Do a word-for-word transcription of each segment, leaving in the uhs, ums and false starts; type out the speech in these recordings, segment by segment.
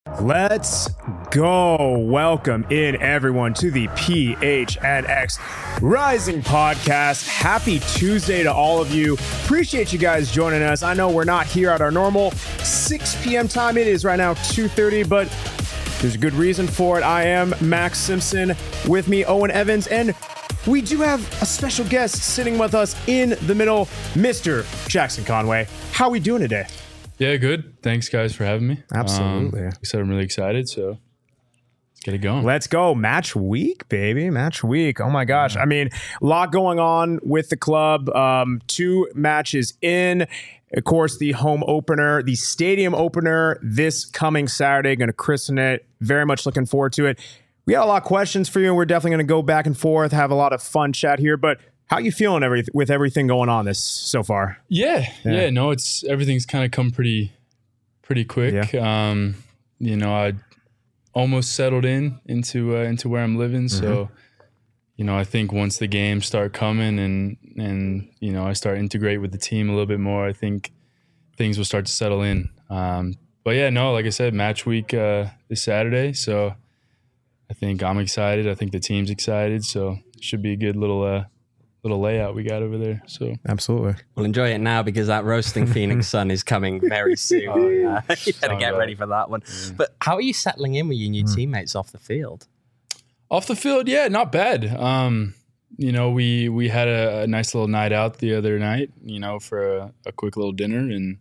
Let's go. Welcome in, everyone, to the P H N X Rising Podcast. Happy Tuesday to all of you. Appreciate you guys joining us. I know we're not here at our normal six p.m. time. It is right now two thirty, but there's a good reason for it. I am Max Simpson. With me, Owen Evans, and we do have a special guest sitting with us in the middle, Mister Jackson Conway. How are we doing today? Yeah, good. Thanks, guys, for having me. Absolutely. Um, like I said, I'm really excited, so let's get it going. Let's go. Match week, baby. Match week. Oh, my gosh. I mean, a lot going on with the club. Um, two matches in. Of course, the home opener, the stadium opener this coming Saturday. Going to christen it. Very much looking forward to it. We got a lot of questions for you, and we're definitely going to go back and forth, have a lot of fun chat here, but how are you feeling every, with everything going on this so far? Yeah, yeah, yeah no, it's everything's kind of come pretty, pretty quick. Yeah. Um, you know, I almost settled in into uh, into where I'm living. Mm-hmm. So, you know, I think once the games start coming and and you know I start integrate with the team a little bit more, I think things will start to settle in. Um, but yeah, no, like I said, match week uh, is Saturday, so I think I'm excited. I think the team's excited, so it should be a good little. Uh, little layout we got over there. So absolutely. We'll enjoy it now because that roasting Phoenix sun is coming very soon. Oh, yeah. Uh, you better get ready for that one. Yeah. But how are you settling in with your new mm. teammates off the field? Off the field, yeah, not bad. Um, you know, we we had a, a nice little night out the other night, you know, for a, a quick little dinner. And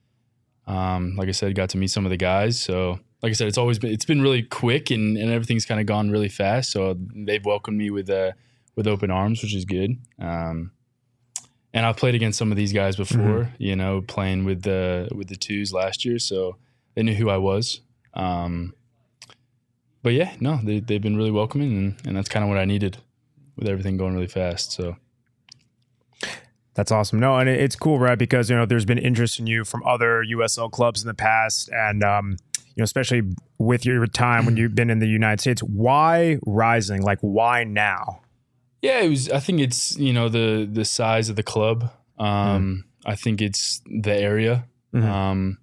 um, like I said, got to meet some of the guys. So like I said, it's always been, it's been really quick and, and everything's kind of gone really fast. So they've welcomed me with a, with open arms, which is good. Um, and I've played against some of these guys before, mm-hmm. you know, playing with the with the twos last year, so they knew who I was. Um, but yeah, no, they, they've been really welcoming, and, and that's kind of what I needed with everything going really fast. So that's awesome. No, and it's cool, right? Because, you know, there's been interest in you from other U S L clubs in the past, and um, you know, especially with your time when you've been in the United States. Why Rising? Like, why now? Yeah, it was. I think it's, you know, the the size of the club. Um, mm. I think it's the area. Mm-hmm. Um,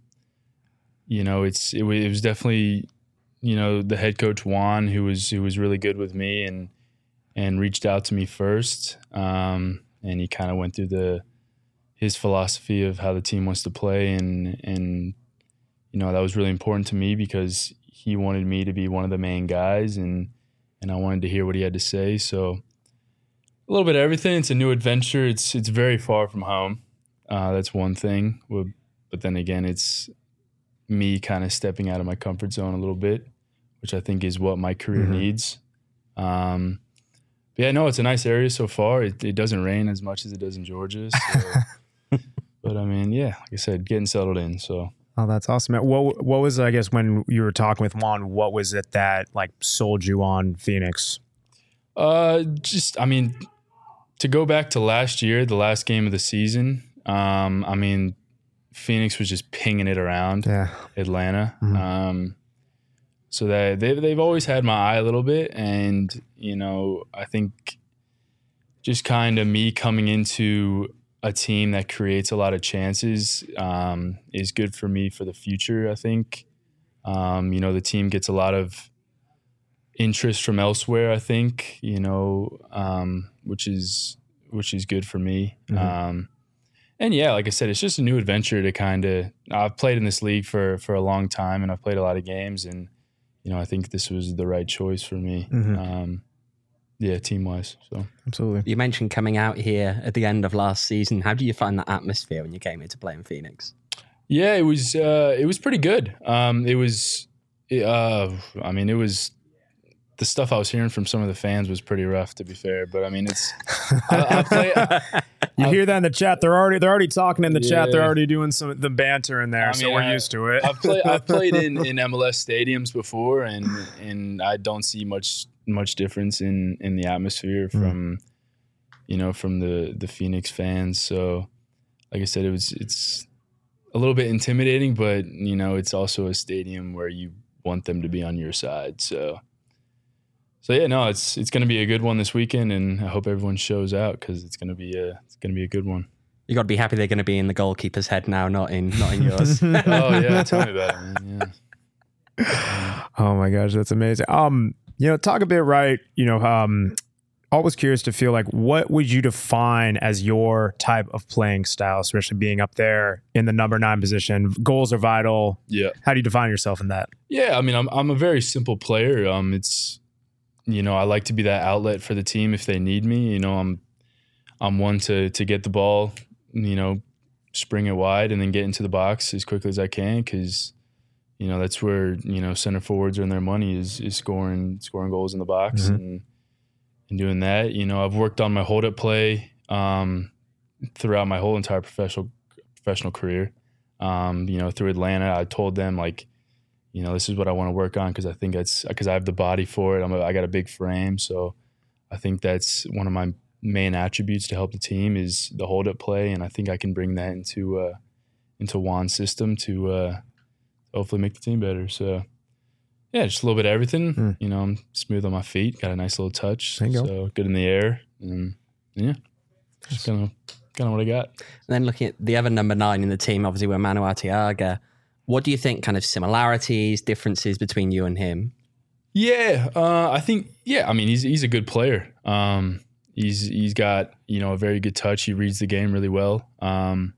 you know, it's it, it was definitely, you know, the head coach Juan, who was who was really good with me and and reached out to me first. Um, and he kind of went through the his philosophy of how the team wants to play, and and you know, that was really important to me because he wanted me to be one of the main guys, and and I wanted to hear what he had to say. So a little bit of everything. It's a new adventure. It's it's very far from home. Uh, that's one thing. But then again, it's me kind of stepping out of my comfort zone a little bit, which I think is what my career mm-hmm. needs. Um, but yeah, no, it's a nice area so far. It, it doesn't rain as much as it does in Georgia. So. But I mean, yeah, like I said, getting settled in. So. Oh, that's awesome. What what was, I guess, when you were talking with Juan, what was it that like sold you on Phoenix? Uh, just, I mean, to go back to last year, the last game of the season, um, I mean, Phoenix was just pinging it around yeah. Atlanta. Mm-hmm. Um, so that they, they've always had my eye a little bit. And, you know, I think just kind of me coming into a team that creates a lot of chances um, is good for me for the future, I think. Um, you know, the team gets a lot of interest from elsewhere, I think, you know, um, which is which is good for me. Mm-hmm. Um, and yeah, like I said, it's just a new adventure to kind of, I've played in this league for, for a long time, and I've played a lot of games, and, you know, I think this was the right choice for me. Mm-hmm. Um, yeah, team-wise. So absolutely. You mentioned coming out here at the end of last season. How do you find that atmosphere when you came here to play in Phoenix? Yeah, it was, uh, it was pretty good. Um, it was, uh, I mean, it was, the stuff I was hearing from some of the fans was pretty rough, to be fair. But I mean, it's I, I play, I, you I, hear that in the chat. They're already they're already talking in the yeah. chat. They're already doing some the banter in there. I mean, so we're I, used to it. I've played I've played in, in M L S stadiums before, and and I don't see much much difference in, in the atmosphere from mm. you know from the, the Phoenix fans. So, like I said, it was it's a little bit intimidating, but you know it's also a stadium where you want them to be on your side. So. So yeah, no, it's it's going to be a good one this weekend, and I hope everyone shows out because it's going to be a it's going to be a good one. You got to be happy they're going to be in the goalkeeper's head now, not in not in yours. Oh yeah, tell me about it, man. Yeah. Oh my gosh, that's amazing. Um, you know, talk a bit, right? You know, um, always curious to feel like, what would you define as your type of playing style, especially being up there in the number nine position? Goals are vital. Yeah. How do you define yourself in that? Yeah, I mean, I'm I'm a very simple player. Um, it's, you know, I like to be that outlet for the team if they need me. You know, I'm I'm one to to get the ball, you know, spring it wide and then get into the box as quickly as I can, because, you know, that's where, you know, center forwards earn their money, is is scoring scoring goals in the box. Mm-hmm. and and doing that. You know, I've worked on my hold up play um, throughout my whole entire professional professional career. Um, you know, through Atlanta, I told them, like, you know, this is what I want to work on, because I think that's because I have the body for it. I'm a, I got a big frame, so I think that's one of my main attributes to help the team is the hold up play, and I think I can bring that into uh, into Juan's system to uh, hopefully make the team better. So. Yeah, just a little bit of everything. Mm. You know, I'm smooth on my feet, got a nice little touch, so go. Good in the air, and yeah, just kind of kind of what I got. And then looking at the other number nine in the team, obviously we're Manu Arteaga. What do you think kind of similarities, differences between you and him? Yeah, uh, I think yeah. I mean, he's he's a good player. Um, he's he's got, you know, a very good touch. He reads the game really well. Um,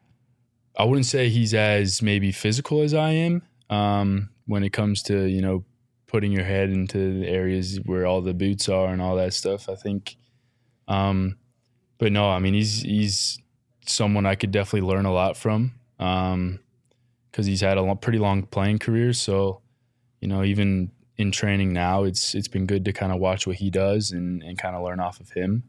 I wouldn't say he's as maybe physical as I am. Um, when it comes to, you know, putting your head into the areas where all the boots are and all that stuff, I think. Um, but no, I mean, he's he's someone I could definitely learn a lot from, um, because he's had a long, pretty long playing career. So, you know, even in training now, it's it's been good to kind of watch what he does and, and kind of learn off of him.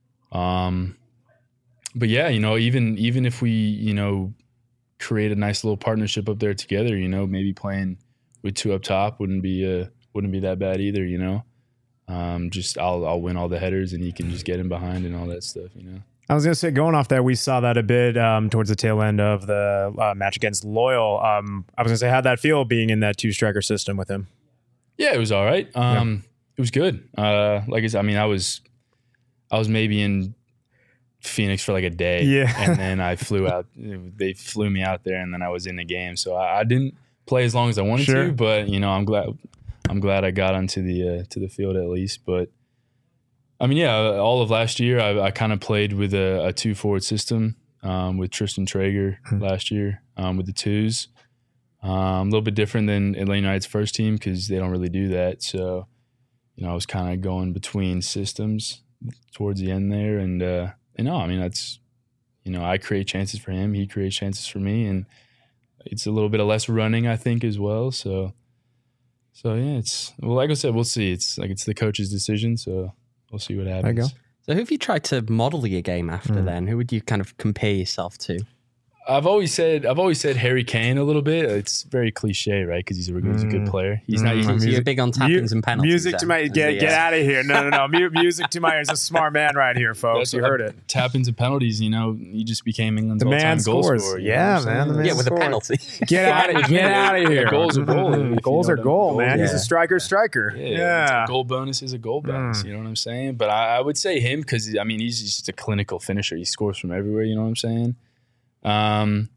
Um, but yeah, you know, even even if we, you know, create a nice little partnership up there together, you know, maybe playing with two up top wouldn't be uh wouldn't be that bad either, you know. Um, just I'll I'll win all the headers and he can just get in behind and all that stuff, you know. I was gonna say, going off that, we saw that a bit um, towards the tail end of the uh, match against Loyal. Um, I was gonna say, how'd that feel being in that two striker system with him? Yeah, it was all right. Um, yeah. It was good. Uh, like I said, I mean, I was I was maybe in Phoenix for like a day, yeah, and then I flew out. They flew me out there, and then I was in the game. So I, I didn't play as long as I wanted sure. to, but you know, I'm glad I'm glad I got onto the uh, to the field at least. But I mean, yeah, all of last year I, I kind of played with a, a two forward system um, with Tristan Traeger hmm. last year um, with the twos. Um, a little bit different than Atlanta United's first team because they don't really do that. So you know, I was kind of going between systems towards the end there, and uh, and no, I mean that's you know I create chances for him, he creates chances for me, and it's a little bit of less running, I think, as well. So, so yeah, it's well, like I said, we'll see. It's like it's the coach's decision, so we'll see what happens. There you go. So, who have you tried to model your game after? Mm. Then, who would you kind of compare yourself to? I've always said I've always said Harry Kane a little bit. It's very cliche, right? Because he's a he's a good player. He's mm. not. He's, so you're big on tap-ins and penalties. Music then, to my get get out of here! No, no, no. Music to my ears. A smart man right here, folks. That's you heard I, it. Tap-ins and penalties. You know, he just became England's the all-time man goal scores. scorer. Yeah, man. The man yeah, with scores. a penalty. Get out of get out of here. Yeah, goals are goal. Goals are goal, man. Yeah. He's a striker, striker. Yeah, yeah. A goal bonus is a goal bonus. Mm. You know what I'm saying? But I, I would say him because I mean he's just a clinical finisher. He scores from everywhere. You know what I'm saying? Um.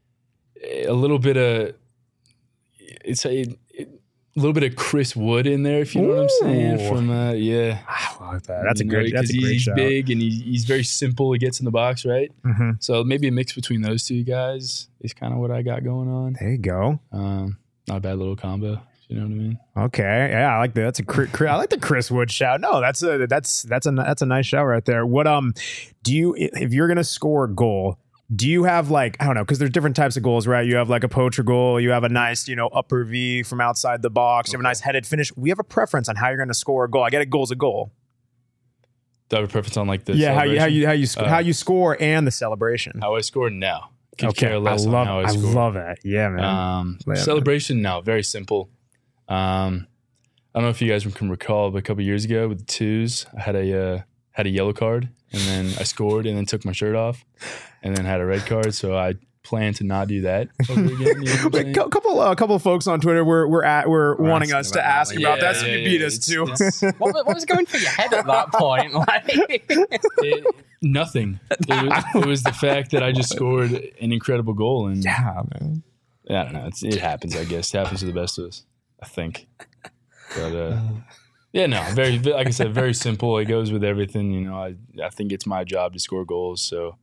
A little bit of it's a, a little bit of Chris Wood in there, if you know Ooh. What I'm saying. From uh, yeah, I like that. That's you a great. That's a great he's shout. big and he, he's very simple. He gets in the box, right? Mm-hmm. So maybe a mix between those two guys is kind of what I got going on. There you go. Um, not a bad little combo. You know what I mean? Okay, yeah, I like that. That's a I like the Chris Wood shout. No, that's a that's that's a that's a nice shout right there. What um, do you if you're gonna score a goal? Do you have like, I don't know, because there's different types of goals, right? You have like a poacher goal. You have a nice, you know, upper V from outside the box. You have a nice headed finish. We have a preference on how you're going to score a goal. I get a goal's a goal. Do I have a preference on like the yeah, how you how you how you sc- uh, how you score and the celebration. How I score now. Could okay, care less I love on how I, I score. love it. Yeah, man. Um, yeah, celebration now, very simple. Um, I don't know if you guys can recall, but a couple years ago with the twos, I had a uh, had a yellow card. And then I scored and then took my shirt off and then had a red card. So I plan to not do that over again. You know Wait, a couple a uh, couple of folks on Twitter were were at were we're wanting us to ask that. about yeah, that. So yeah, you yeah, beat yeah. us it's, too. It's, what, what was going through your head at that point? Like it, nothing. It was, it was the fact that I just scored an incredible goal. And yeah, man. I don't know. It's, it happens, I guess. It happens to the best of us. I think. But uh, yeah, no, very like I said, very simple. It goes with everything. You know, I I think it's my job to score goals, so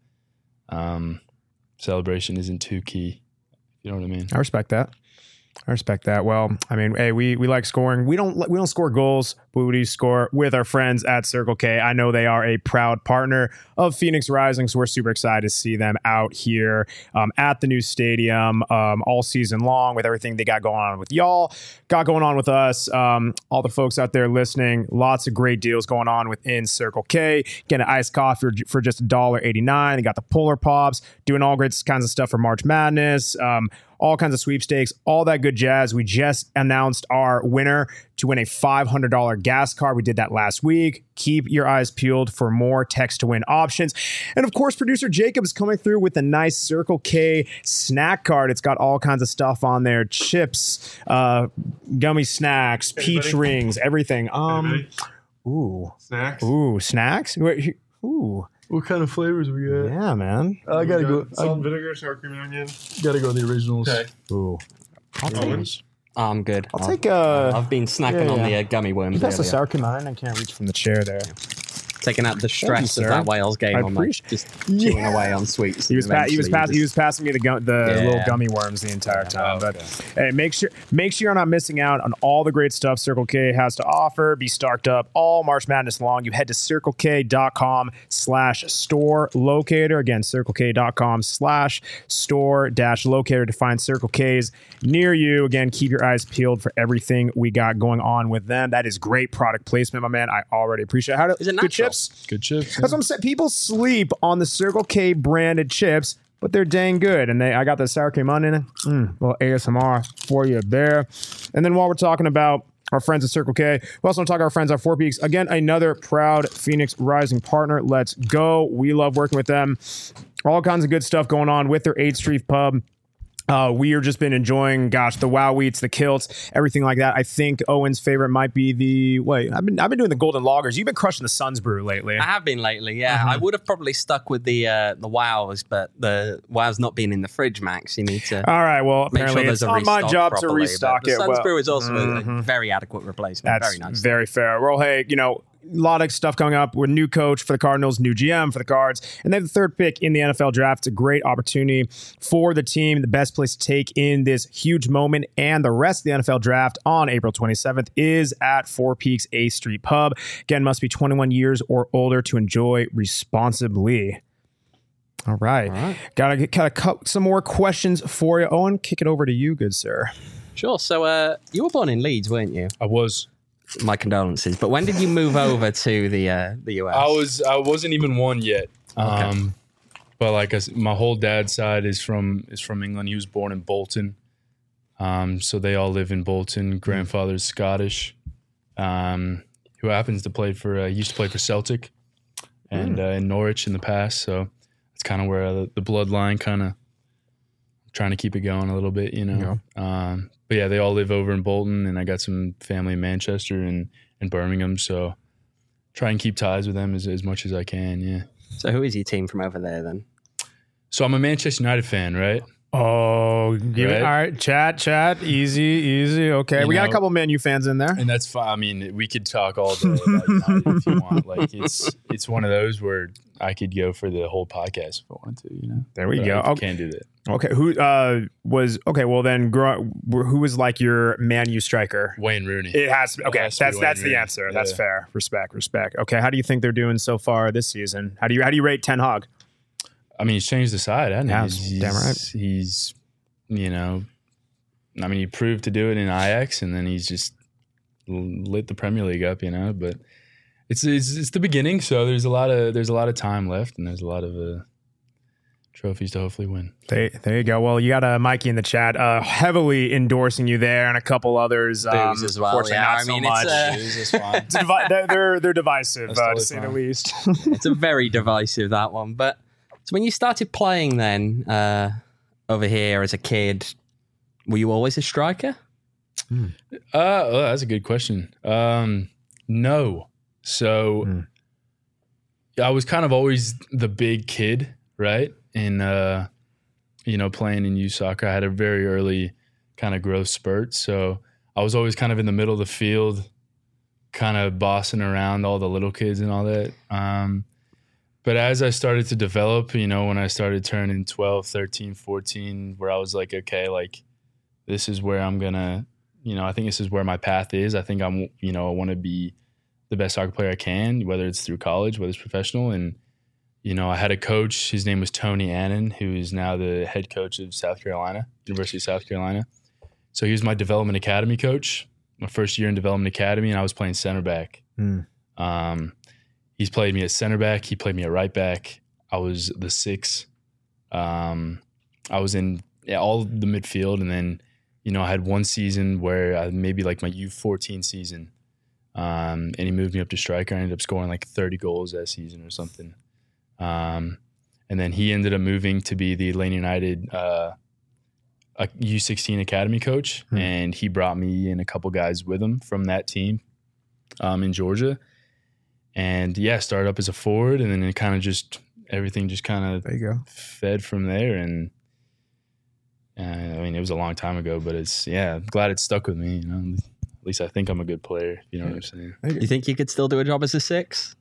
um, celebration isn't too key. You know what I mean? I respect that. I respect that. Well, I mean, hey, we we like scoring. We don't we don't score goals, but we do score with our friends at Circle K. I know they are a proud partner of Phoenix Rising, so we're super excited to see them out here um, at the new stadium um, all season long with everything they got going on with y'all, got going on with us. Um, all the folks out there listening, lots of great deals going on within Circle K. Get an iced coffee for, for just one dollar eighty-nine. They got the Polar Pops, doing all great kinds of stuff for March Madness. Um, all kinds of sweepstakes, all that good jazz. We just announced our winner to win a five hundred dollars gas card. We did that last week. Keep your eyes peeled for more text to win options. And of course, producer Jacob is coming through with a nice Circle K snack card. It's got all kinds of stuff on there. Chips, uh, gummy snacks, peach Anybody? rings, everything. Um, Anybody? Ooh. Snacks? Ooh, snacks? Wait, ooh. What kind of flavors we got? Yeah, man. Uh, I gotta go. Salt and I, vinegar, sour cream and onion. Gotta go the originals. Okay. Ooh. I'll take, Owens? I'm good. I'll take uh I've been snacking yeah, on the yeah. uh, gummy worms That's the earlier. sour cream and onion. I can't reach from the chair there. Taking out the stress you, of sir. that Wales game. I I'm like appreciate- just chewing Yeah. away on sweets. He was pa- he was Eventually passing he just- was passing me the gu- the Yeah. little gummy worms the entire Yeah. time. Oh, but okay. hey, make sure make sure you're not missing out on all the great stuff Circle K has to offer. Be stocked up all March Madness long. You head to circlek.com slash store locator. Again, circlek.com slash store dash locator to find Circle K's near you. Again, keep your eyes peeled for everything we got going on with them. That is great product placement, my man. I already appreciate it. How do, Is it good natural? chips? Good chips. That's what I'm saying. People sleep on the Circle K branded chips, but they're dang good. And they, I got the sour cream onion. Mm, little A S M R for you there. And then while we're talking about our friends at Circle K, we also want to talk to our friends at Four Peaks. Again, another proud Phoenix Rising partner. Let's go. We love working with them. All kinds of good stuff going on with their eighth Street Pub. Uh, we are just been enjoying, gosh, the wow wheats, the kilts, everything like that. I think Owen's favorite might be the wait. I've been I've been doing the golden lagers. You've been crushing the Suns Brew lately. I have been lately, yeah. Mm-hmm. I would have probably stuck with the uh, the wows, but the wows not being in the fridge, Max. You need to All right. Well, make apparently sure it's there's a on my restock job properly, to but restock the it. Suns Well, Brew is also mhm. a very adequate replacement. That's Very nice. very fair. Well, hey, you know, a lot of stuff coming up with new coach for the Cardinals, new G M for the Cards, and they have the third pick in the N F L draft. It's a great opportunity for the team. The best place to take in this huge moment and the rest of the N F L draft on April twenty-seventh is at Four Peaks eighth Street Pub. Again, must be twenty-one years or older to enjoy responsibly. All right. All right. Gotta get kind of some more questions for you. Owen, kick it over to you, good sir. Sure. So uh, you were born in Leeds, weren't you? I was. My condolences. But when did you move over to the uh, the U S? I was. I wasn't even one yet. Um, but like I, s- my whole dad's side is from is from England. He was born in Bolton. Um, so they all live in Bolton. Grandfather's Scottish. Um, who happens to play for? Uh, he used to play for Celtic, and uh, in Norwich in the past. So it's kind of where the, the bloodline kind of trying to keep it going a little bit, you know. Um, but yeah, they all live over in Bolton, and I got some family in Manchester and, and Birmingham. So try and keep ties with them as, as much as I can. Yeah. So who is your team from over there then? So I'm a Manchester United fan, right? Oh, give it, Right. all right. Chat, chat. Easy, easy. Okay. You we got a know- couple Man U fans in there. And that's fine. I mean, we could talk all day about United if you want. Like it's it's one of those where I could go for the whole podcast if I wanted to. You know. There we But go. I Okay. can't do that. Okay. Who uh was okay? Well, then, grow, who was like your Man U striker? Wayne Rooney. It has to be. Okay, It has to be that's Wayne that's the Rooney. answer. That's Yeah. fair. Respect, respect. Okay, how do you think they're doing so far this season? How do you how do you rate Ten Hag? I mean, he's changed the side, hasn't he? Has, He's, damn right. He's, you know, I mean, he proved to do it in Ajax, and then he's just lit the Premier League up, you know. But it's it's, it's the beginning, so there's a lot of there's a lot of time left, and there's a lot of uh, trophies to hopefully win. There, there you go. Well, you got uh, Mikey in the chat, uh, heavily endorsing you there, and a couple others. Um, Booze as well, fortunately yeah. not I so mean, much. it's, uh, Booze is fine. It's a divi- they're, they're they're divisive, That's uh, to totally say the fine. least. It's a very divisive, that one. But so when you started playing then uh, over here as a kid, were you always a striker? Uh, oh, that's a good question. Um, no. So Mm. I was kind of always the big kid, right? And, uh, you know, playing in youth soccer, I had a very early kind of growth spurt. So I was always kind of in the middle of the field, kind of bossing around all the little kids and all that. Um, but as I started to develop, you know, when I started turning twelve, thirteen, fourteen, where I was like, okay, like this is where I'm going to, you know, I think this is where my path is. I think I'm, you know, I want to be the best soccer player I can, whether it's through college, whether it's professional. And, you know, I had a coach, his name was Tony Annan, who is now the head coach of South Carolina, University of South Carolina. So he was my development academy coach, my first year in development academy, and I was playing center back. Mm. Um, he's played me at center back. He played me at right back. I was the six. Um, I was in yeah, all the midfield. And then, you know, I had one season where I, maybe like my U fourteen season, um, and he moved me up to striker. I ended up scoring like thirty goals that season or something. Um, and then he ended up moving to be the Atlanta United uh, a U sixteen academy coach, hmm. and he brought me and a couple guys with him from that team um, in Georgia. And yeah, started up as a forward, and then it kind of just everything just kind of there you go. fed from there. And uh, I mean, it was a long time ago, but it's yeah, I'm glad it stuck with me. You know, at least I think I'm a good player. You know what I'm saying? You think you could still do a job as a six?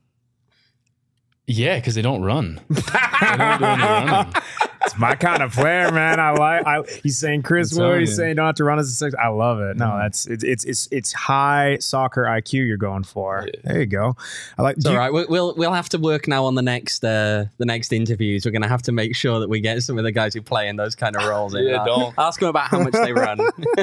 Yeah, because they don't run. They don't do any running. It's my kind of player, man. I like. I, he's saying Chris Wood. He's saying don't have to run as a six. I love it. No, that's it's it's it's it's high soccer I Q you're going for. Yeah. There you go. I like. It's all right. We'll we'll have to work now on the next uh, the next interviews. We're gonna have to make sure that we get some of the guys who play in those kind of roles. In. Yeah, uh, don't ask them about how much they run.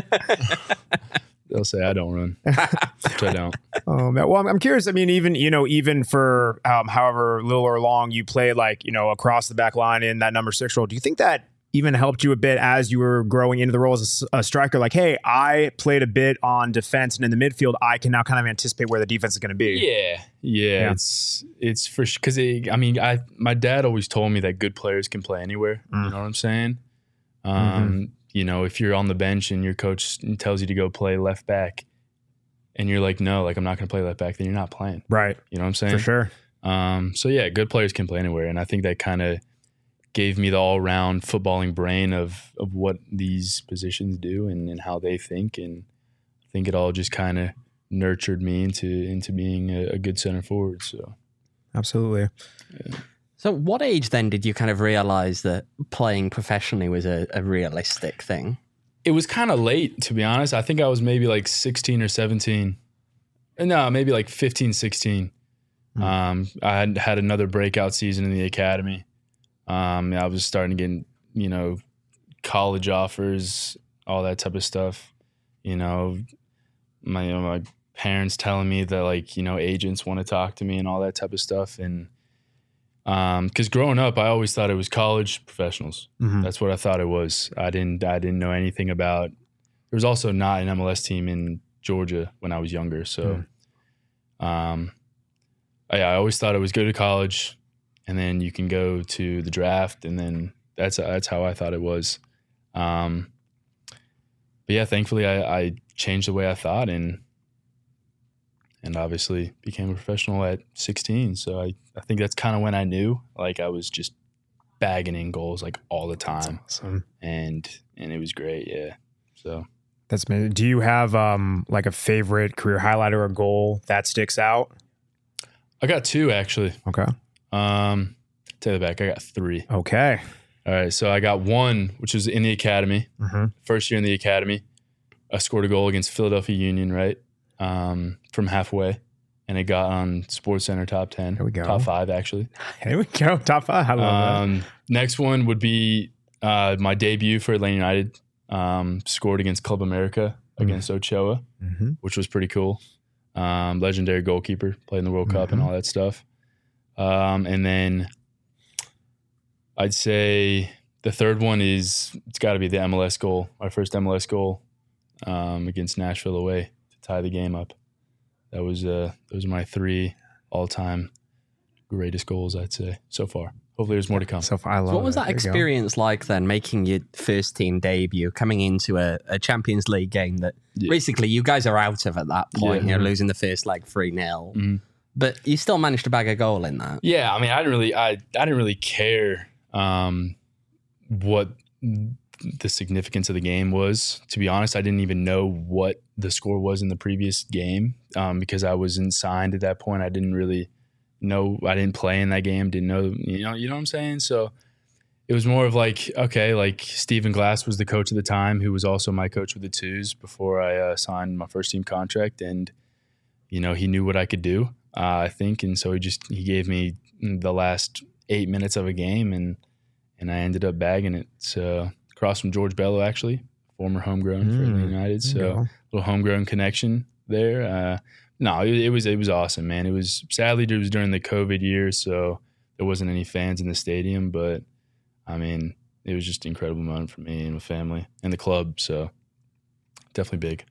They'll say I don't run, which I don't. Oh man. Well, I'm, I'm curious. I mean, even you know, even for um, however little or long you played, like you know, across the back line in that number six role, do you think that even helped you a bit as you were growing into the role as a, a striker? Like, hey, I played a bit on defense and in the midfield. I can now kind of anticipate where the defense is going to be. Yeah, yeah, yeah. It's it's for because I mean, I my dad always told me that good players can play anywhere. Mm. You know what I'm saying? Um, mm-hmm. You know, if you're on the bench and your coach tells you to go play left back and you're like, no, like I'm not going to play left back, then you're not playing. Right. You know what I'm saying? For sure. Um, so yeah, good players can play anywhere. And I think that kind of gave me the all around footballing brain of, of what these positions do and, and how they think. And I think it all just kind of nurtured me into, into being a, a good center forward. So absolutely. Yeah. So what age then did you kind of realize that playing professionally was a, a realistic thing? It was kind of late, to be honest. I think I was maybe like sixteen or seventeen. No, maybe like fifteen, sixteen. Mm. Um, I had had another breakout season in the academy. Um, I was starting to get, you know, college offers, all that type of stuff. You know, my, you know, my parents telling me that like, you know, agents want to talk to me and all that type of stuff. And Um, because growing up, I always thought it was college professionals. Mm-hmm. That's what I thought it was. I didn't, I didn't know anything about. There was also not an M L S team in Georgia when I was younger, so, mm. um, I, I always thought it was go to college, and then you can go to the draft, and then that's that's how I thought it was. Um, but yeah, thankfully, I, I changed the way I thought, and. And obviously became a professional at sixteen. So I, I think that's kind of when I knew, like I was just bagging in goals like all the time. That's awesome. And and it was great, yeah. So that's amazing. Do you have um like a favorite career highlight or a goal that sticks out? I got two actually. Okay. Um, take it back. I got three. Okay. All right. So I got one, which was in the academy. Mm-hmm. First year in the academy, I scored a goal against Philadelphia Union, right? Um, from halfway, and it got on SportsCenter top ten. Here we go. Top five, actually. Here we go. Top five. I love um, that. Next one would be uh, my debut for Atlanta United. Um, scored against Club America mm-hmm. against Ochoa, mm-hmm. which was pretty cool. Um, legendary goalkeeper, played in the World mm-hmm. Cup and all that stuff. Um, and then I'd say the third one is, it's got to be the M L S goal, my first M L S goal um, against Nashville away. Tie the game up. That was uh those are my three all-time greatest goals, I'd say, so far. Hopefully there's more to come. So far, I love so what was it. that experience like then, making your first team debut, coming into a, a Champions League game that yeah. basically you guys are out of at that point, yeah. you're losing the first leg three nil, mm-hmm. but you still managed to bag a goal in that. Yeah, I mean, I didn't really I I didn't really care um what the significance of the game was. To be honest, I didn't even know what the score was in the previous game um, because I wasn't signed at that point. I didn't really know. I didn't play in that game. Didn't know. You know. You know what I'm saying? So it was more of like, okay, like Stephen Glass was the coach at the time, who was also my coach with the twos before I uh, signed my first team contract, and you know he knew what I could do. Uh, I think, and so he just he gave me the last eight minutes of a game, and and I ended up bagging it. So across from George Bello, actually, former homegrown mm, for Atlanta United. So a little homegrown connection there. Uh, no, it, it was it was awesome, man. It was sadly it was during the COVID year, so there wasn't any fans in the stadium. But I mean, it was just an incredible moment for me and my family and the club. So definitely big.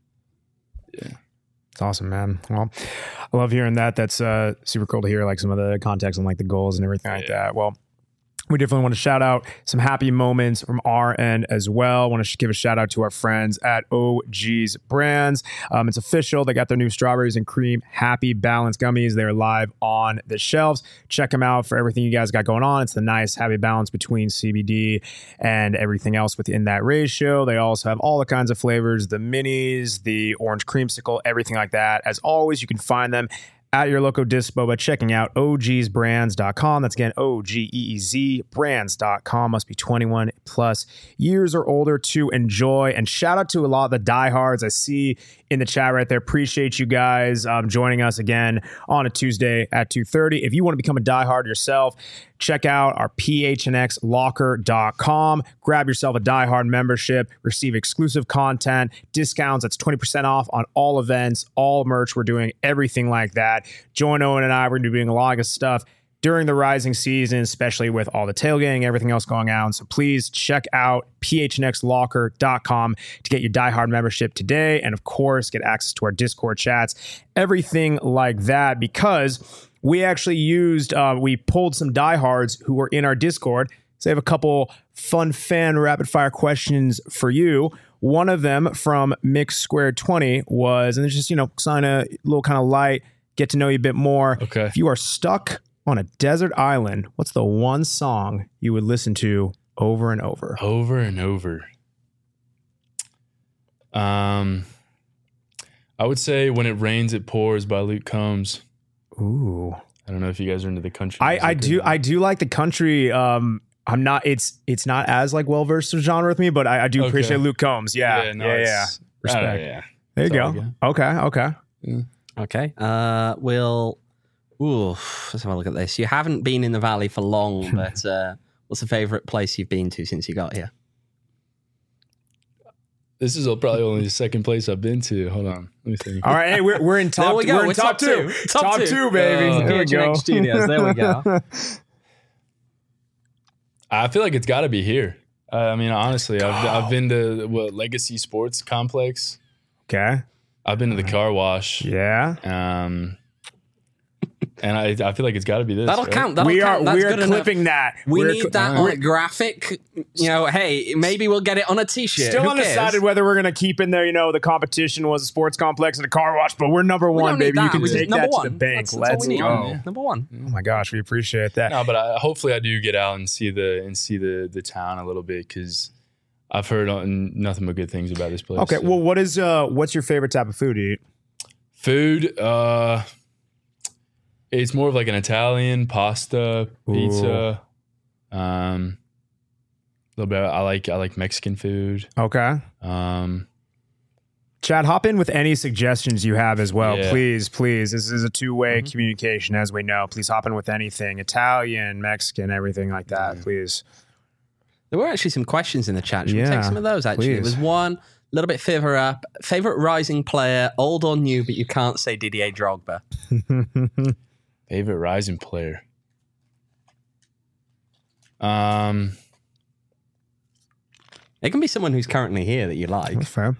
Yeah. It's awesome, man. Well, I love hearing that. That's uh, super cool to hear, like some of the context on like the goals and everything like yeah. that. Well, we definitely want to shout out some happy moments from our end as well. I want to give a shout out to our friends at O G's Brands. Um, it's official. They got their new strawberries and cream Happy Balance gummies. They're live on the shelves. Check them out for everything you guys got going on. It's the nice happy balance between C B D and everything else within that ratio. They also have all the kinds of flavors, the minis, the orange creamsicle, everything like that. As always, you can find them at your local dispo by checking out O Gs brands dot com. That's again O G E E Z brands dot com. Must be twenty-one plus years or older to enjoy. And shout out to a lot of the diehards I see in the chat right there. Appreciate you guys um, joining us again on a Tuesday at two thirty. If you want to become a diehard yourself, check out our P H N X locker dot com. Grab yourself a diehard membership, receive exclusive content, discounts. That's twenty percent off on all events, all merch. We're doing everything like that. Join Owen and I. We're going to be doing a lot of stuff during the Rising season, especially with all the tailgating, everything else going on. So please check out P H N X locker dot com to get your diehard membership today. And of course, get access to our Discord chats, everything like that, because we actually used, uh, we pulled some diehards who were in our Discord. So I have a couple fun fan rapid fire questions for you. One of them from Mix Squared twenty was, and it's just, you know, kind of a little kind of light, get to know you a bit more. Okay. If you are stuck on a desert island, what's the one song you would listen to over and over? Over and over. Um, I would say When It Rains, It Pours by Luke Combs. Ooh. I don't know if you guys are into the country. I, I do. I do like the country. Um, I'm not, it's, it's not as like well-versed a genre with me, but I, I do Okay. appreciate Luke Combs. Yeah. Yeah. No, yeah. it's- yeah. I don't know, Respect. yeah. There you That's all go. I Okay. Okay. Yeah. Okay. Uh, we'll. Ooh, let's have a look at this. You haven't been in the Valley for long, but uh, what's the favorite place you've been to since you got here? This is probably only the second place I've been to. Hold on. Let me think. All right. Hey, we're, we're in top, There we go. we're in We're top, top two. two. Top, Top two. two. baby. Uh, there we P H N X go. Studios. There we go. I feel like it's got to be here. Uh, I mean, honestly, I've, I've been to what Legacy Sports Complex. Okay. I've been to the car wash. Yeah. Um, and I, I feel like it's got to be this. That'll right? count. That'll we are count. That's we are good enough. clipping that. We We're need cl- that uh, on a graphic. You know, hey, maybe we'll get it on a t-shirt. Still Who undecided cares? whether we're going to keep in there, you know, the competition was a sports complex and a car wash, but we're number We one, don't need baby. You that. can We just- take number that one. to the bank. That's, that's all Let's we need. go. Yeah. Number one. Oh my gosh, we appreciate that. No, but I, hopefully I do get out and see the and see the the town a little bit because I've heard on, nothing but good things about this place. Okay, so. well, what is uh, what's your favorite type of food to eat? Food, uh, it's more of like an Italian pasta, pizza. Um, a little bit. I like I like Mexican food. Okay. Um, Chad, hop in with any suggestions you have as well. Yeah. Please, please. This is a two-way communication, as we know. Please hop in with anything. Italian, Mexican, everything like that, Yeah. please. There were actually some questions in the chat. Should we Yeah, take some of those, actually? please. There was one, a little bit further up. Favorite rising player, old or new, but you can't say Didier Drogba. favorite Rising player. Um, It can be someone who's currently here that you like. That's fair.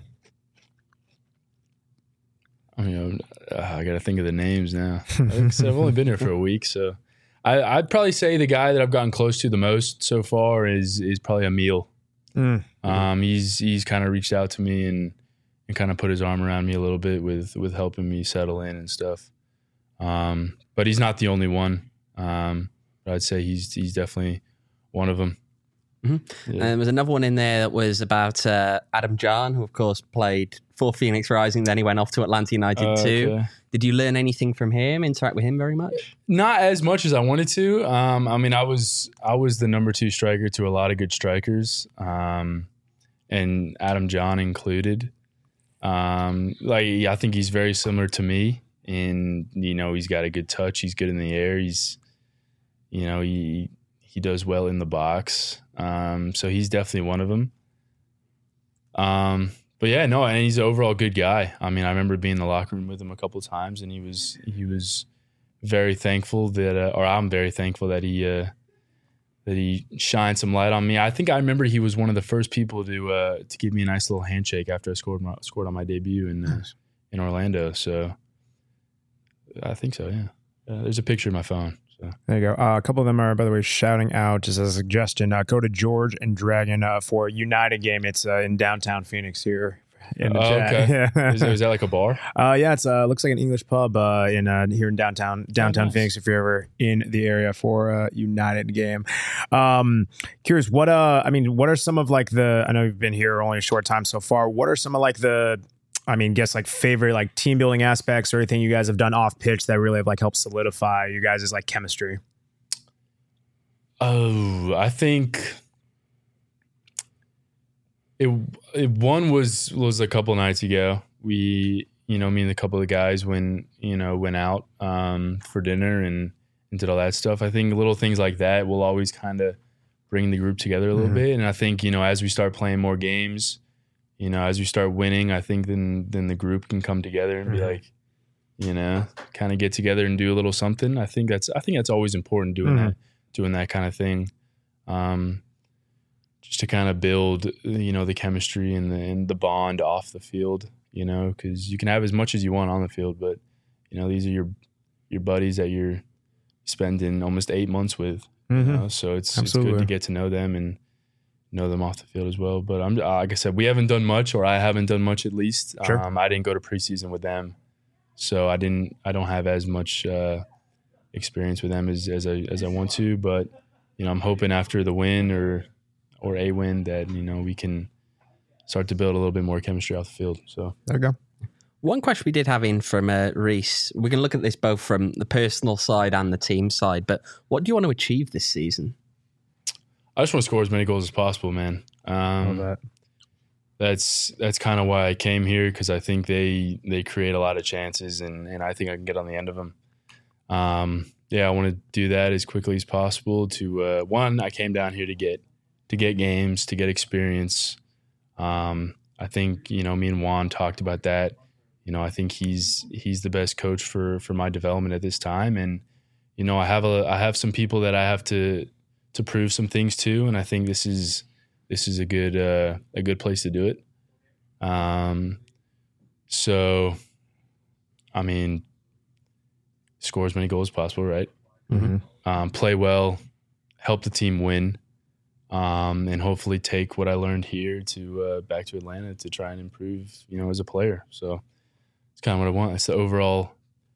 I mean, uh, I got to think of the names now. Like I said, I've only been here for a week, so I, I'd probably say the guy that I've gotten close to the most so far is is probably Emil. Mm. Um, he's he's kind of reached out to me and and kind of put his arm around me a little bit with with helping me settle in and stuff. Um, but he's not the only one. Um, but I'd say he's he's definitely one of them. Mm-hmm. Yeah. And there was another one in there that was about uh, Adam Jahn, who of course played for Phoenix Rising. Then he went off to Atlanta United uh, too. Okay. Did you learn anything from him? Interact with him very much? Not as much as I wanted to. Um, I mean, I was I was the number two striker to a lot of good strikers, um, and Adam Jahn included. Um, like I think he's very similar to me, and you know he's got a good touch. He's good in the air. He's, you know, he he does well in the box. Um, so he's definitely one of them. Um, but yeah, no, and he's an overall good guy. I mean, I remember being in the locker room with him a couple of times, and he was he was very thankful that, uh, or I'm very thankful that he uh, that he shined some light on me. I think I remember he was one of the first people to uh, to give me a nice little handshake after I scored my, scored on my debut in uh, nice. in Orlando. So I think so. Yeah, uh, there's a picture of my phone. So. There you go. Uh, a couple of them are, by the way, shouting out as a suggestion. Uh, go to George and Dragon uh, for United game. It's uh, in downtown Phoenix here. In the oh, chat. Okay. Yeah. is, is that like a bar? Uh, yeah, it's uh, looks like an English pub uh, in uh, here in downtown downtown oh, nice. Phoenix. If you're ever in the area for a United game, um, curious what uh, I mean, what are some of like the? I know you've been here only a short time so far. What are some of like the? I mean, guess like favorite like team building aspects or anything you guys have done off pitch that really have like helped solidify you guys' like chemistry? Oh, I think it, it one was was a couple nights ago. We, you know, me and a couple of guys when you know went out um, for dinner and, and did all that stuff. I think little things like that will always kind of bring the group together a little mm-hmm. bit. And I think you know as we start playing more games. You know, as we start winning, I think then then the group can come together and be mm-hmm. like, you know, kind of get together and do a little something. I think that's I think that's always important doing mm-hmm. that doing that kind of thing, um, just to kind of build you know the chemistry and the and the bond off the field. You know, because you can have as much as you want on the field, but you know these are your your buddies that you're spending almost eight months with. Mm-hmm. You know? So it's Absolutely. It's good to get to know them and. Know them off the field as well, but I'm like I said, we haven't done much, or I haven't done much at least. Sure. Um, I didn't go to preseason with them, so I didn't. I don't have as much uh, experience with them as as I as I want to. But you know, I'm hoping after the win or or a win that you know we can start to build a little bit more chemistry off the field. So there you go. One question we did have in from uh, Reese. We can look at this both from the personal side and the team side. But what do you want to achieve this season? I just want to score as many goals as possible, man. Um, that. That's that's kind of why I came here because I think they they create a lot of chances and, and I think I can get on the end of them. Um, yeah, I want to do that as quickly as possible. To uh, one, I came down here to get to get games, to get experience. Um, I think you know me and Juan talked about that. You know, I think he's he's the best coach for for my development at this time, and you know I have a I have some people that I have to. to prove some things too, and I think this is this is a good uh, a good place to do it. Um, so, I mean, score as many goals as possible, right? Mm-hmm. Um, play well, help the team win, um, and hopefully take what I learned here to uh, back to Atlanta to try and improve, you know, as a player. So it's kind of what I want. It's the overall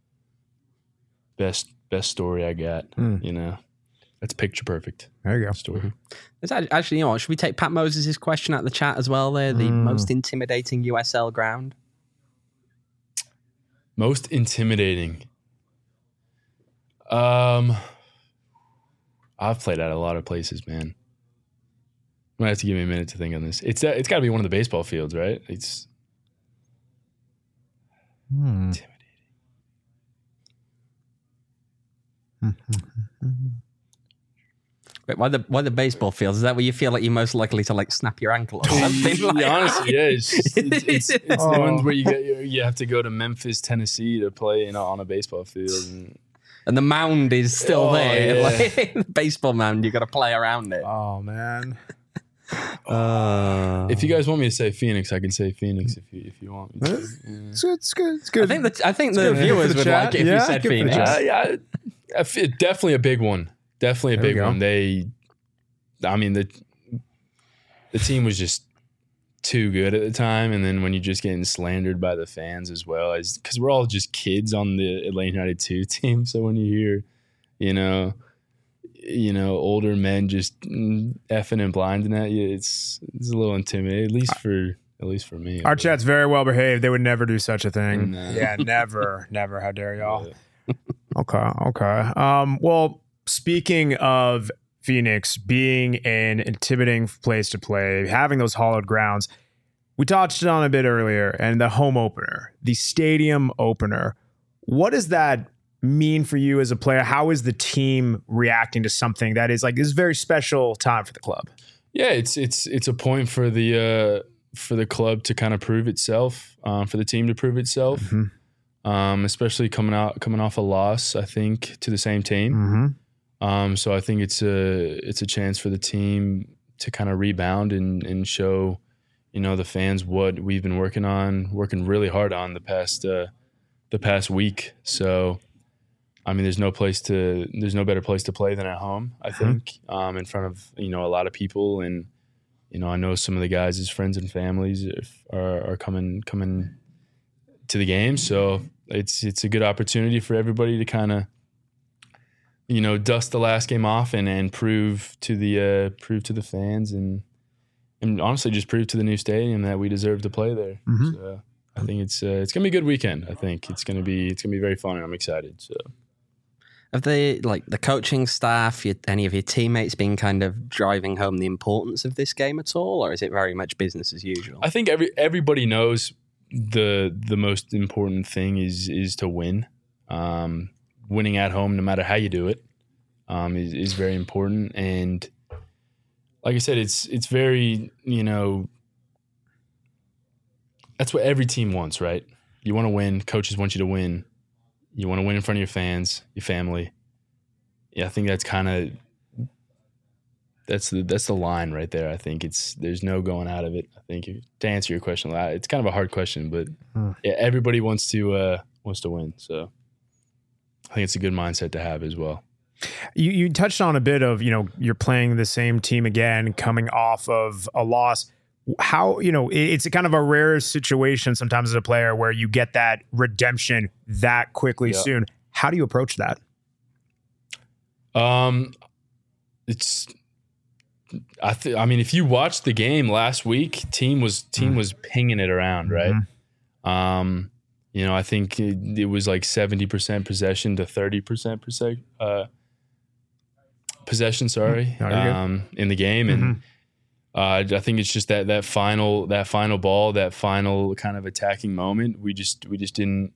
best best story I got, mm. you know. That's picture perfect. There you go. Story. It's actually, you know what, should we take Pat Moses' question out of the chat as well there? The mm. most intimidating U S L ground? Most intimidating? Um, I've played at a lot of places, man. I'm going to have to give me a minute to think on this. It's uh, It's got to be one of the baseball fields, right? It's hmm. intimidating. Wait, why the why the baseball field? Is that where you feel like you're most likely to like snap your ankle or something? Yeah, like honestly, yeah. It's, just, it's, it's, it's oh. the ones where you get you have to go to Memphis, Tennessee to play, you know, on a baseball field, and, and the mound is still oh, there. Yeah. Like, the baseball mound, you got to play around it. Oh man. Uh, if you guys want me to say Phoenix, I can say Phoenix if you if you want me to. It's, yeah. it's good. It's good. It's good. I think the I think the viewers would chat. like it if yeah, you said Phoenix. Uh, yeah, definitely a big one. Definitely a there big one. They, I mean the the team was just too good at the time, and then when you're just getting slandered by the fans as well, as because we're all just kids on the Atlanta United two team. So when you hear, you know. you know, older men just effing and blinding at you, it's it's a little intimidating, at least for at least for me. Our chat's very well behaved. They would never do such a thing. No. Yeah, never, never. How dare y'all? Yeah. Okay, okay. Um, well, speaking of Phoenix being an intimidating place to play, having those hollowed grounds, we touched on a bit earlier, and the home opener, the stadium opener. What does that mean for you as a player? How is the team reacting to something that is like this very special time for the club? Yeah, it's it's it's a point for the uh, for the club to kind of prove itself, um, for the team to prove itself, mm-hmm. um, especially coming out coming off a loss, I think, to the same team. Mm-hmm. Um, so I think it's a it's a chance for the team to kind of rebound and and show, you know, the fans what we've been working on, working really hard on the past uh, the past week. So, I mean, there's no place to there's no better place to play than at home, I think, mm-hmm. um, in front of, you know, a lot of people. And, you know, I know some of the guys' as friends and families are, are coming coming to the game. So it's it's a good opportunity for everybody to kind of, you know, dust the last game off and, and prove to the uh, prove to the fans and and honestly just prove to the new stadium that we deserve to play there. Mm-hmm. So I think it's uh, it's gonna be a good weekend. I think it's gonna be it's gonna be very fun, and I'm excited. So, have they, like the coaching staff, your, any of your teammates, been kind of driving home the importance of this game at all, or is it very much business as usual? I think every everybody knows the the most important thing is is to win. Um, winning at home, no matter how you do it, um, is, is very important. And like I said, it's it's very, you know, that's what every team wants, right? You want to win. Coaches want you to win. You want to win in front of your fans, your family. Yeah, I think that's kind of that's the that's the line right there. I think it's there's no going out of it. I think to answer your question, it's kind of a hard question, but hmm. yeah, everybody wants to uh, wants to win. So I think it's a good mindset to have as well. You you touched on a bit of, you know, you're playing the same team again, coming off of a loss. How, you know, it's a kind of a rare situation sometimes as a player where you get that redemption that quickly yeah. soon. How do you approach that? Um, it's, I think, I mean, if you watched the game last week, team was team mm. was pinging it around, right? Mm-hmm. Um, you know, I think it, it was like seventy percent possession to thirty percent percent, uh, possession, sorry, mm. um, in the game. Mm-hmm. And uh, I think it's just that that final that final ball, that final kind of attacking moment, we just we just didn't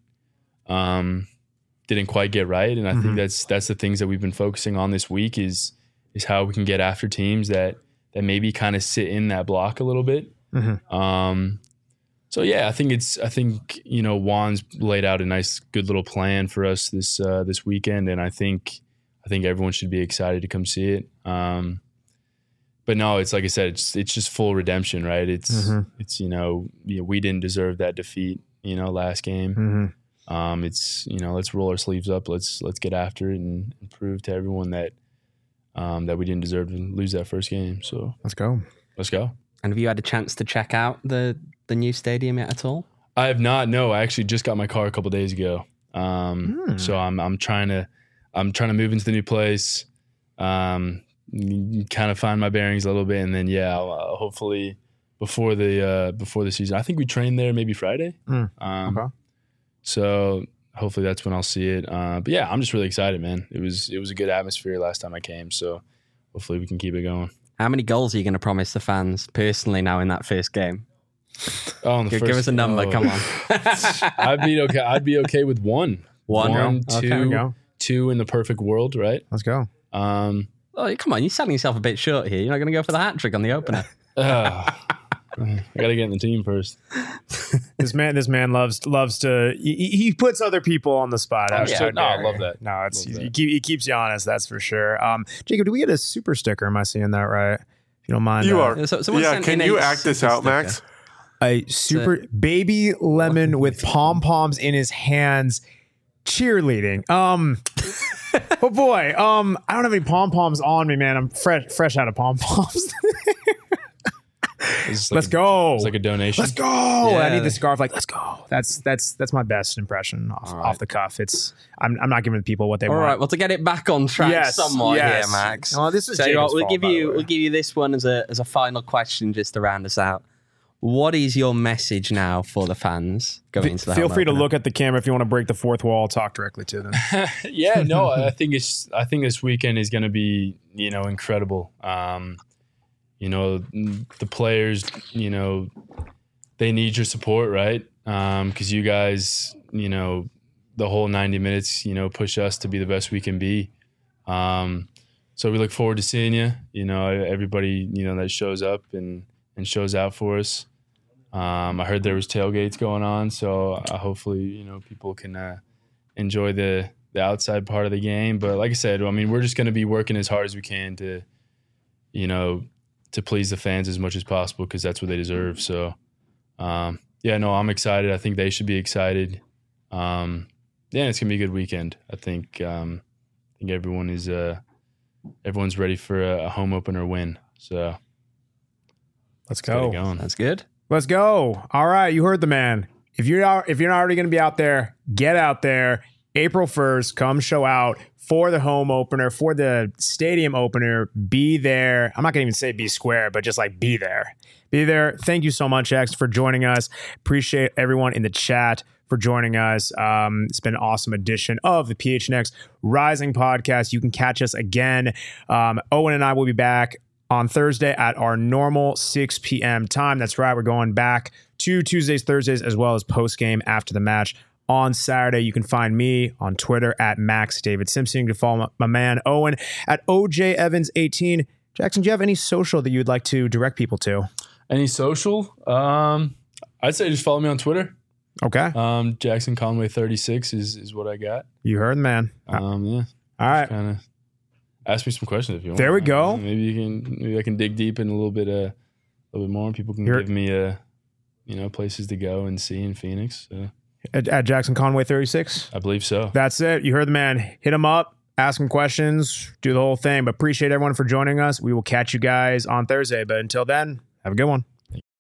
um, didn't quite get right. And I mm-hmm. think that's that's the things that we've been focusing on this week is is how we can get after teams that that maybe kind of sit in that block a little bit. Mm-hmm. Um, So yeah, I think it's. I think you know Juan's laid out a nice, good little plan for us this uh, this weekend, and I think I think everyone should be excited to come see it. Um, but no, it's like I said, it's it's just full redemption, right? It's mm-hmm. it's you know, you know we didn't deserve that defeat, you know, last game. Mm-hmm. Um, it's you know let's roll our sleeves up, let's let's get after it and, and prove to everyone that um, that we didn't deserve to lose that first game. So let's go, let's go. And have you had a chance to check out the the new stadium yet at all? I have not. No, I actually just got my car a couple days ago. Um, mm. So I'm I'm trying to I'm trying to move into the new place, um, kind of find my bearings a little bit, and then yeah, I'll, uh, hopefully before the uh, before the season. I think we train there maybe Friday. Mm. Um, okay. So hopefully that's when I'll see it. Uh, but yeah, I'm just really excited, man. It was it was a good atmosphere last time I came, so hopefully we can keep it going. How many goals are you going to promise the fans personally now in that first game? Oh, the give, first, give us a number. Oh. Come on. I'd be okay. I'd be okay with one. One, one okay. two, two in the perfect world, right? Let's go. Um, oh, come on, you're selling yourself a bit short here. You're not going to go for the hat trick on the opener. uh, I got to get in the team first. This man, this man loves loves to. He, he puts other people on the spot. Oh, yeah. No, I love that. No, it's that. He, keep, he keeps you honest. That's for sure. Um, Jacob, do we get a super sticker? Am I seeing that right? If you don't mind, you uh, are. So, yeah, can you act this out, sticker. Max? A super baby lemon with pom poms in his hands, cheerleading. Um, oh boy. Um, I don't have any pom poms on me, man. I'm fresh, fresh out of pom poms. Like let's a, go. It's like a donation. Let's go. Yeah. I need the scarf. Like, let's go. That's that's that's my best impression off, right. off the cuff. It's I'm I'm not giving people what they All want. right, well, to get it back on track Yes, somewhat yes. here, Max. Oh, this is so you know Jacob's what, we'll fault, give by the you way. we'll give you this one as a as a final question just to round us out. What is your message now for the fans going into the Feel home free to opener? look at the camera if you want to break the fourth wall. Talk directly to them. Yeah, no, I think it's. I think this weekend is going to be, you know, incredible. Um, you know, the players, you know, they need your support, right? Because um, you guys, you know, the whole ninety minutes, you know, push us to be the best we can be. Um, so we look forward to seeing you. You know, everybody, you know, that shows up and and shows out for us. Um, I heard there was tailgates going on, so uh, hopefully, you know, people can uh, enjoy the the outside part of the game. But like I said, I mean, we're just going to be working as hard as we can to, you know, to please the fans as much as possible because that's what they deserve. So, um, yeah, no, I'm excited. I think they should be excited. Um, yeah, it's gonna be a good weekend. I think. Um, I think everyone is uh, everyone's ready for a, a home opener win. So Let's let's get go. it going. That's good. Let's go. All right, you heard the man. If you're not, if you're not already going to be out there, get out there. April first, come show out for the home opener, for the stadium opener. Be there. I'm not going to even say be square, but just like be there. Be there. Thank you so much, X, for joining us. Appreciate everyone in the chat for joining us. Um, it's been an awesome edition of the P H N X Rising podcast. You can catch us again. Um, Owen and I will be back on Thursday at our normal six p.m. time. That's right. We're going back to Tuesdays, Thursdays, as well as post-game after the match on Saturday. You can find me on Twitter at Max David Simpson. You can follow my, my man Owen at O J Evans eighteen. Jackson, do you have any social that you'd like to direct people to? Any social? Um, I'd say just follow me on Twitter. Okay. Um, Jackson Conway thirty-six is is what I got. You heard the man. Um, yeah. All right. Kind of ask me some questions if you want. There we go. Maybe you can. Maybe I can dig deep in a little bit, uh, a little bit more, and people can Here- give me, uh, you know, places to go and see in Phoenix. So At, at Jackson Conway thirty-six. I believe so. That's it. You heard the man. Hit him up. Ask him questions. Do the whole thing. But appreciate everyone for joining us. We will catch you guys on Thursday. But until then, have a good one.